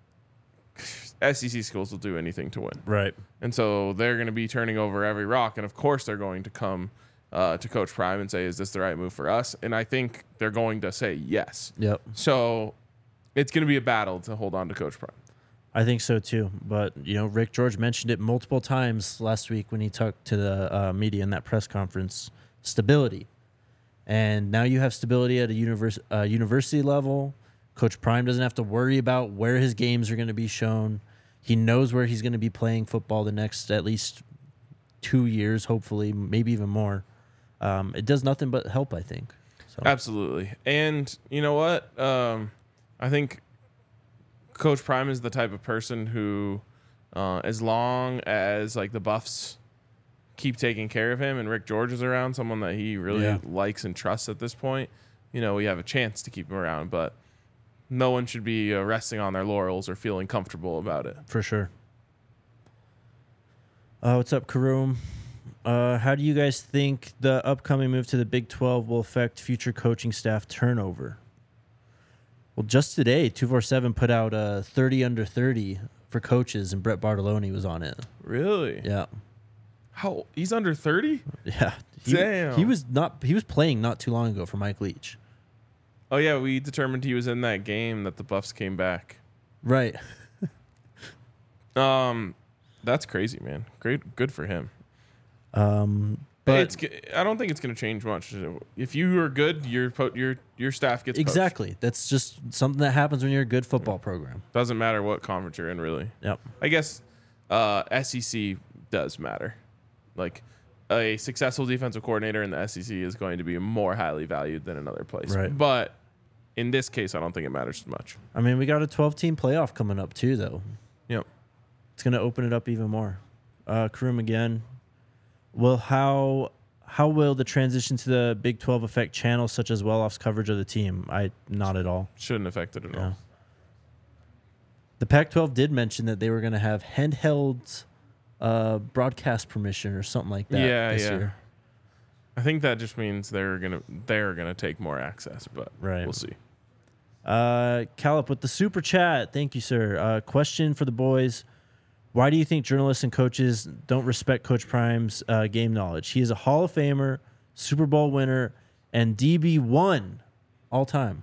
S E C schools will do anything to win. Right. And so they're going to be turning over every rock. And of course, they're going to come uh, to Coach Prime and say, is this the right move for us? And I think they're going to say yes. Yep. So it's going to be a battle to hold on to Coach Prime. I think so too. But, you know, Rick George mentioned it multiple times last week when he talked to the uh, media in that press conference. Stability. And now you have stability at a univers- uh, university level. Coach Prime doesn't have to worry about where his games are going to be shown. He knows where he's going to be playing football the next at least two years, hopefully, maybe even more. Um, it does nothing but help, I think. So. Absolutely. And you know what? Um, I think Coach Prime is the type of person who, uh, as long as like the Buffs keep taking care of him and Rick George is around, someone that he really Yeah. likes and trusts at this point, you know, we have a chance to keep him around. But no one should be uh, resting on their laurels or feeling comfortable about it. For sure. Uh, what's up, Karoom? Uh, how do you guys think the upcoming move to the Big twelve will affect future coaching staff turnover? Well, just today, two forty-seven put out a thirty under thirty for coaches, and Brett Bartoloni was on it. Really? Yeah. How he's under thirty? Yeah. He, Damn. He was not. He was playing not too long ago for Mike Leach. Oh yeah, we determined he was in that game that the Buffs came back. Right. Um, that's crazy, man. Great, good for him. Um, But but it's. g- I don't think it's going to change much. If you are good, your po- your your staff gets poached. exactly. That's just something that happens when you're a good football program. Doesn't matter what conference you're in, really. Yep. I guess uh, S E C does matter. Like a successful defensive coordinator in the S E C is going to be more highly valued than another place. Right. But in this case, I don't think it matters as much. I mean, we got a twelve-team playoff coming up too, though. Yep. It's going to open it up even more. Uh, Karoom again. Well, how how will the transition to the Big twelve affect channels such as Well-Off's coverage of the team? I not at all. Shouldn't affect it at Yeah. all. The Pac twelve did mention that they were going to have handheld uh, broadcast permission or something like that. Yeah, this yeah. Year. I think that just means they're gonna they're gonna take more access, but Right. we'll see. Uh, Calip with the super chat. Thank you, sir. Uh, question for the boys. Why do you think journalists and coaches don't respect Coach Prime's uh, game knowledge? He is a Hall of Famer, Super Bowl winner, and D B one all time.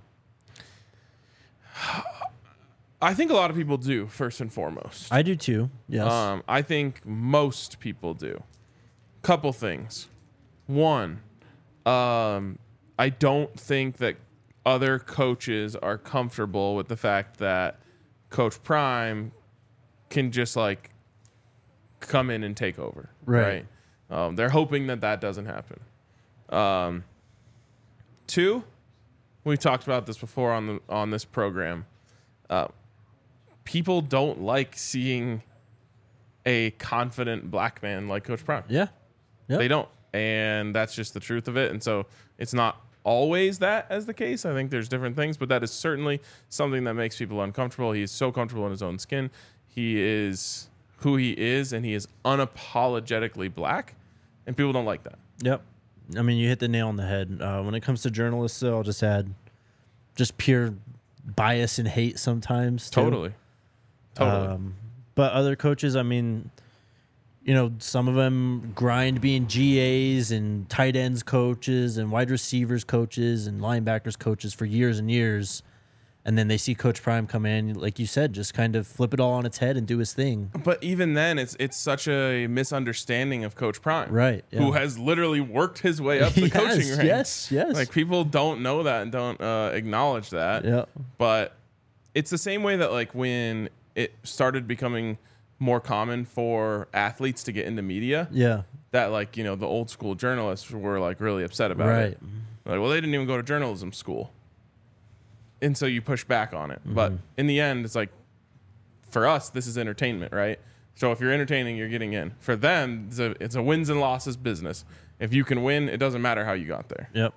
I think a lot of people do, first and foremost. I do too. Yes. Um, I think most people do. Couple things. One, um, I don't think that other coaches are comfortable with the fact that Coach Prime can just like come in and take over. Right. Right. Um, they're hoping that that doesn't happen. Um, two, we talked about this before on the on this program. Uh, people don't like seeing a confident black man like Coach Prime. yeah. Yep. They don't. And that's just the truth of it. And so it's not always that as the case. I think there's different things, but that is certainly something that makes people uncomfortable. He is so comfortable in his own skin. He is who he is, and he is unapologetically black, and people don't like that. Yep. I mean, you hit the nail on the head. Uh, when it comes to journalists, though, I'll just add just pure bias and hate sometimes. Too. Totally. Totally. Um, but other coaches, I mean, you know, some of them grind being G As and tight ends coaches and wide receivers coaches and linebackers coaches for years and years. And then they see Coach Prime come in, like you said, just kind of flip it all on its head and do his thing. But even then, it's it's such a misunderstanding of Coach Prime, Right, yeah. Who has literally worked his way up the Yes, coaching ranks. yes, yes. Like people don't know that and don't uh, acknowledge that. Yeah. But it's the same way that like when it started becoming more common for athletes to get into media, Yeah. that like you know the old school journalists were like really upset about Right. it. Like, well, they didn't even go to journalism school. And so you push back on it. Mm-hmm. But in the end, it's like, for us, this is entertainment, right? So if you're entertaining, you're getting in. For them, it's a, it's a wins and losses business. If you can win, it doesn't matter how you got there. Yep.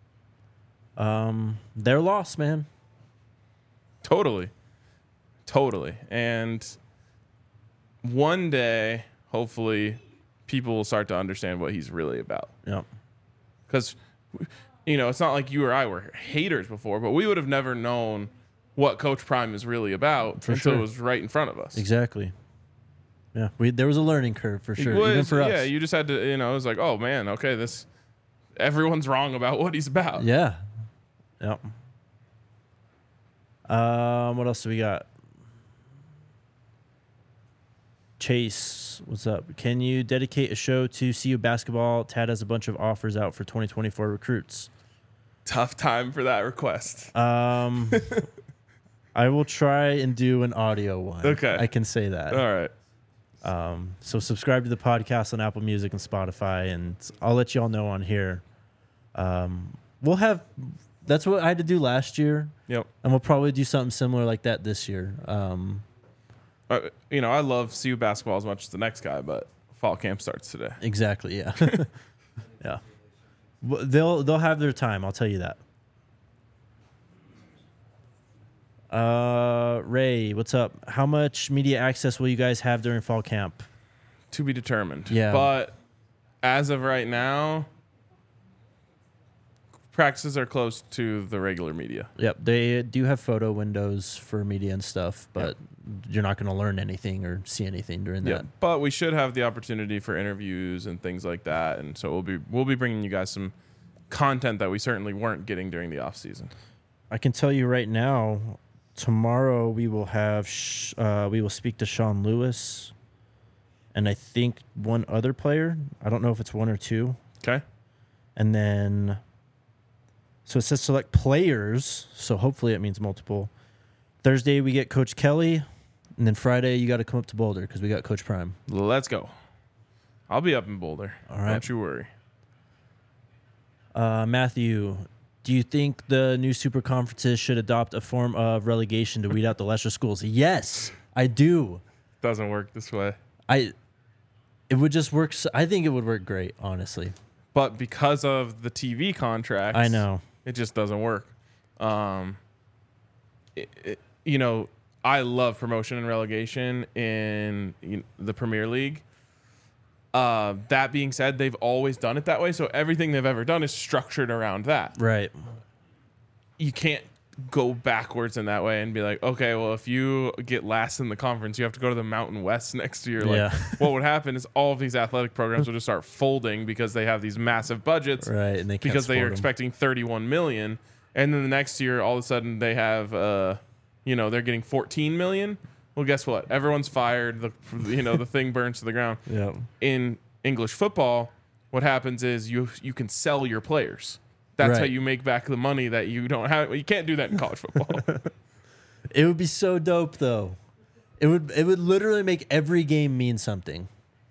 Um, their loss, man. Totally. Totally. And one day, hopefully, people will start to understand what he's really about. Yep. Because, you know, it's not like you or I were haters before, but we would have never known what Coach Prime is really about For until sure. it was right in front of us. Exactly. Yeah. We there was a learning curve for sure, It was- even for us. Yeah, you just had to, you know, it was like, oh man, okay, this, everyone's wrong about what he's about. Yeah. Yep. Um, what else do we got? Chase, what's up? Can you dedicate a show to C U basketball? Tad has a bunch of offers out for twenty twenty-four recruits. Tough time for that request. Um, I will try and do an audio one. Okay. I can say that. All right. Um, so subscribe to the podcast on Apple Music and Spotify, and I'll let you all know on here. Um, we'll have, that's what I had to do last year, Yep. and we'll probably do something similar like that this year. Um, Uh, you know, I love C U basketball as much as the next guy, but fall camp starts today. exactly, yeah, yeah. Well, They'll they'll have their time. I'll tell you that. Uh, Ray, what's up? How much media access will you guys have during fall camp? To be determined. Yeah. But as of right now, practices are close to the regular media. Yep, they do have photo windows for media and stuff, but you're not going to learn anything or see anything during Yeah, that. but we should have the opportunity for interviews and things like that, and so we'll be we'll be bringing you guys some content that we certainly weren't getting during the off season. I can tell you right now, tomorrow we will have sh- uh, we will speak to Sean Lewis, and I think one other player. I don't know if it's one or two, Okay. and then so it says select players. So hopefully it means multiple. Thursday we get Coach Kelly, and then Friday you got to come up to Boulder because we got Coach Prime. Let's go. I'll be up in Boulder. All right. Don't you worry. Uh, Matthew, do you think the new super conferences should adopt a form of relegation to weed out the lesser schools? Yes, I do. Doesn't work this way. I. It would just work. s- I think it would work great, honestly. But because of the T V contracts, I know. it just doesn't work. Um, it, it, you know, I love promotion and relegation in you know, the Premier League. Uh, that being said, they've always done it that way. So everything they've ever done is structured around that. Right. You can't go backwards in that way and be like, okay, well, if you get last in the conference, you have to go to the Mountain West next year. Like, Yeah. what would happen is all of these athletic programs would just start folding because they have these massive budgets. Right. And they can't Because they are support 'em. expecting thirty-one million, and then the next year, all of a sudden, they have, uh, you know, they're getting fourteen million. Well, guess what? Everyone's fired. The, you know, the thing burns to the ground. Yep. In English football, what happens is you you can sell your players. That's how Right. you make back the money that you don't have. You can't do that in college football. It would be so dope, though. It would. It would literally make every game mean something.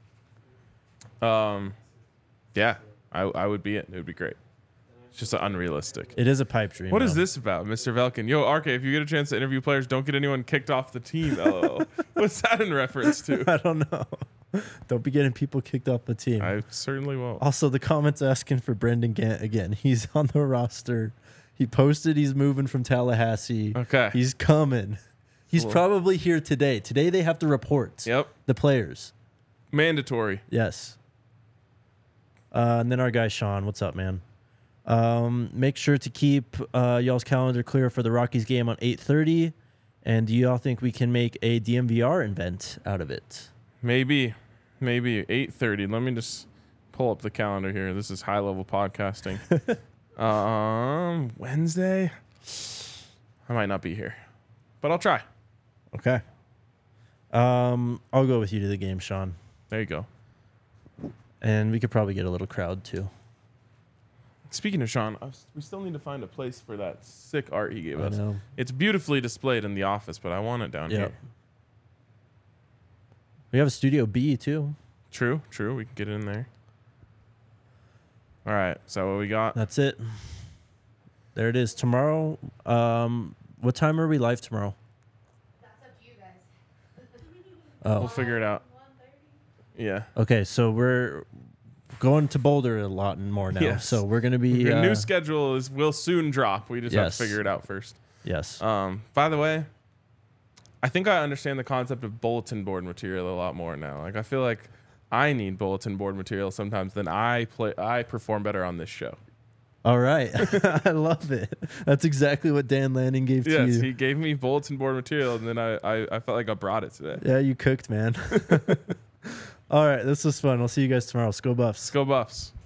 um, yeah, I I would be it. It would be great. It's just unrealistic. It is a pipe dream. What is though. this about, Mister Velkin? Yo, R K, if you get a chance to interview players, don't get anyone kicked off the team. LOL. What's that in reference to? I don't know. Don't be getting people kicked off the team. I certainly won't. Also, the comments asking for Brendan Gant again. He's on the roster. He posted he's moving from Tallahassee. Okay. He's coming. He's Cool. probably here today. Today they have to report Yep. the players. Mandatory. Yes. Uh, and then our guy Sean, what's up, man? Um, make sure to keep uh, y'all's calendar clear for the Rockies game on eight thirty. And do y'all think we can make a D M V R event out of it? Maybe, maybe eight thirty. Let me just pull up the calendar here. This is high level podcasting. um, Wednesday. I might not be here, but I'll try. Okay. Um, I'll go with you to the game, Sean. There you go. And we could probably get a little crowd too. Speaking of Sean, I was, we still need to find a place for that sick art he gave I us. know. It's beautifully displayed in the office, but I want it down Yeah. here. We have a Studio B too. True, true. We can get it in there. All right. So what we got? That's it. There it is. Tomorrow. Um, what time are we live tomorrow? That's up to you guys. Oh, We'll figure it out. one thirty? Yeah. okay. So we're going to Boulder a lot more now. Yes. So we're gonna be Your uh, new schedule is will soon drop. We just have Yes. to figure it out first. yes. Um, by the way, I think I understand the concept of bulletin board material a lot more now. Like I feel like I need bulletin board material sometimes than I play. I perform better on this show. All right. I love it. That's exactly what Dan Lanning gave to Yes, you. he gave me bulletin board material, and then I, I, I felt like I brought it today. Yeah, you cooked, man. All right. This was fun. I'll see you guys tomorrow. Let's go Buffs. Let's go Buffs.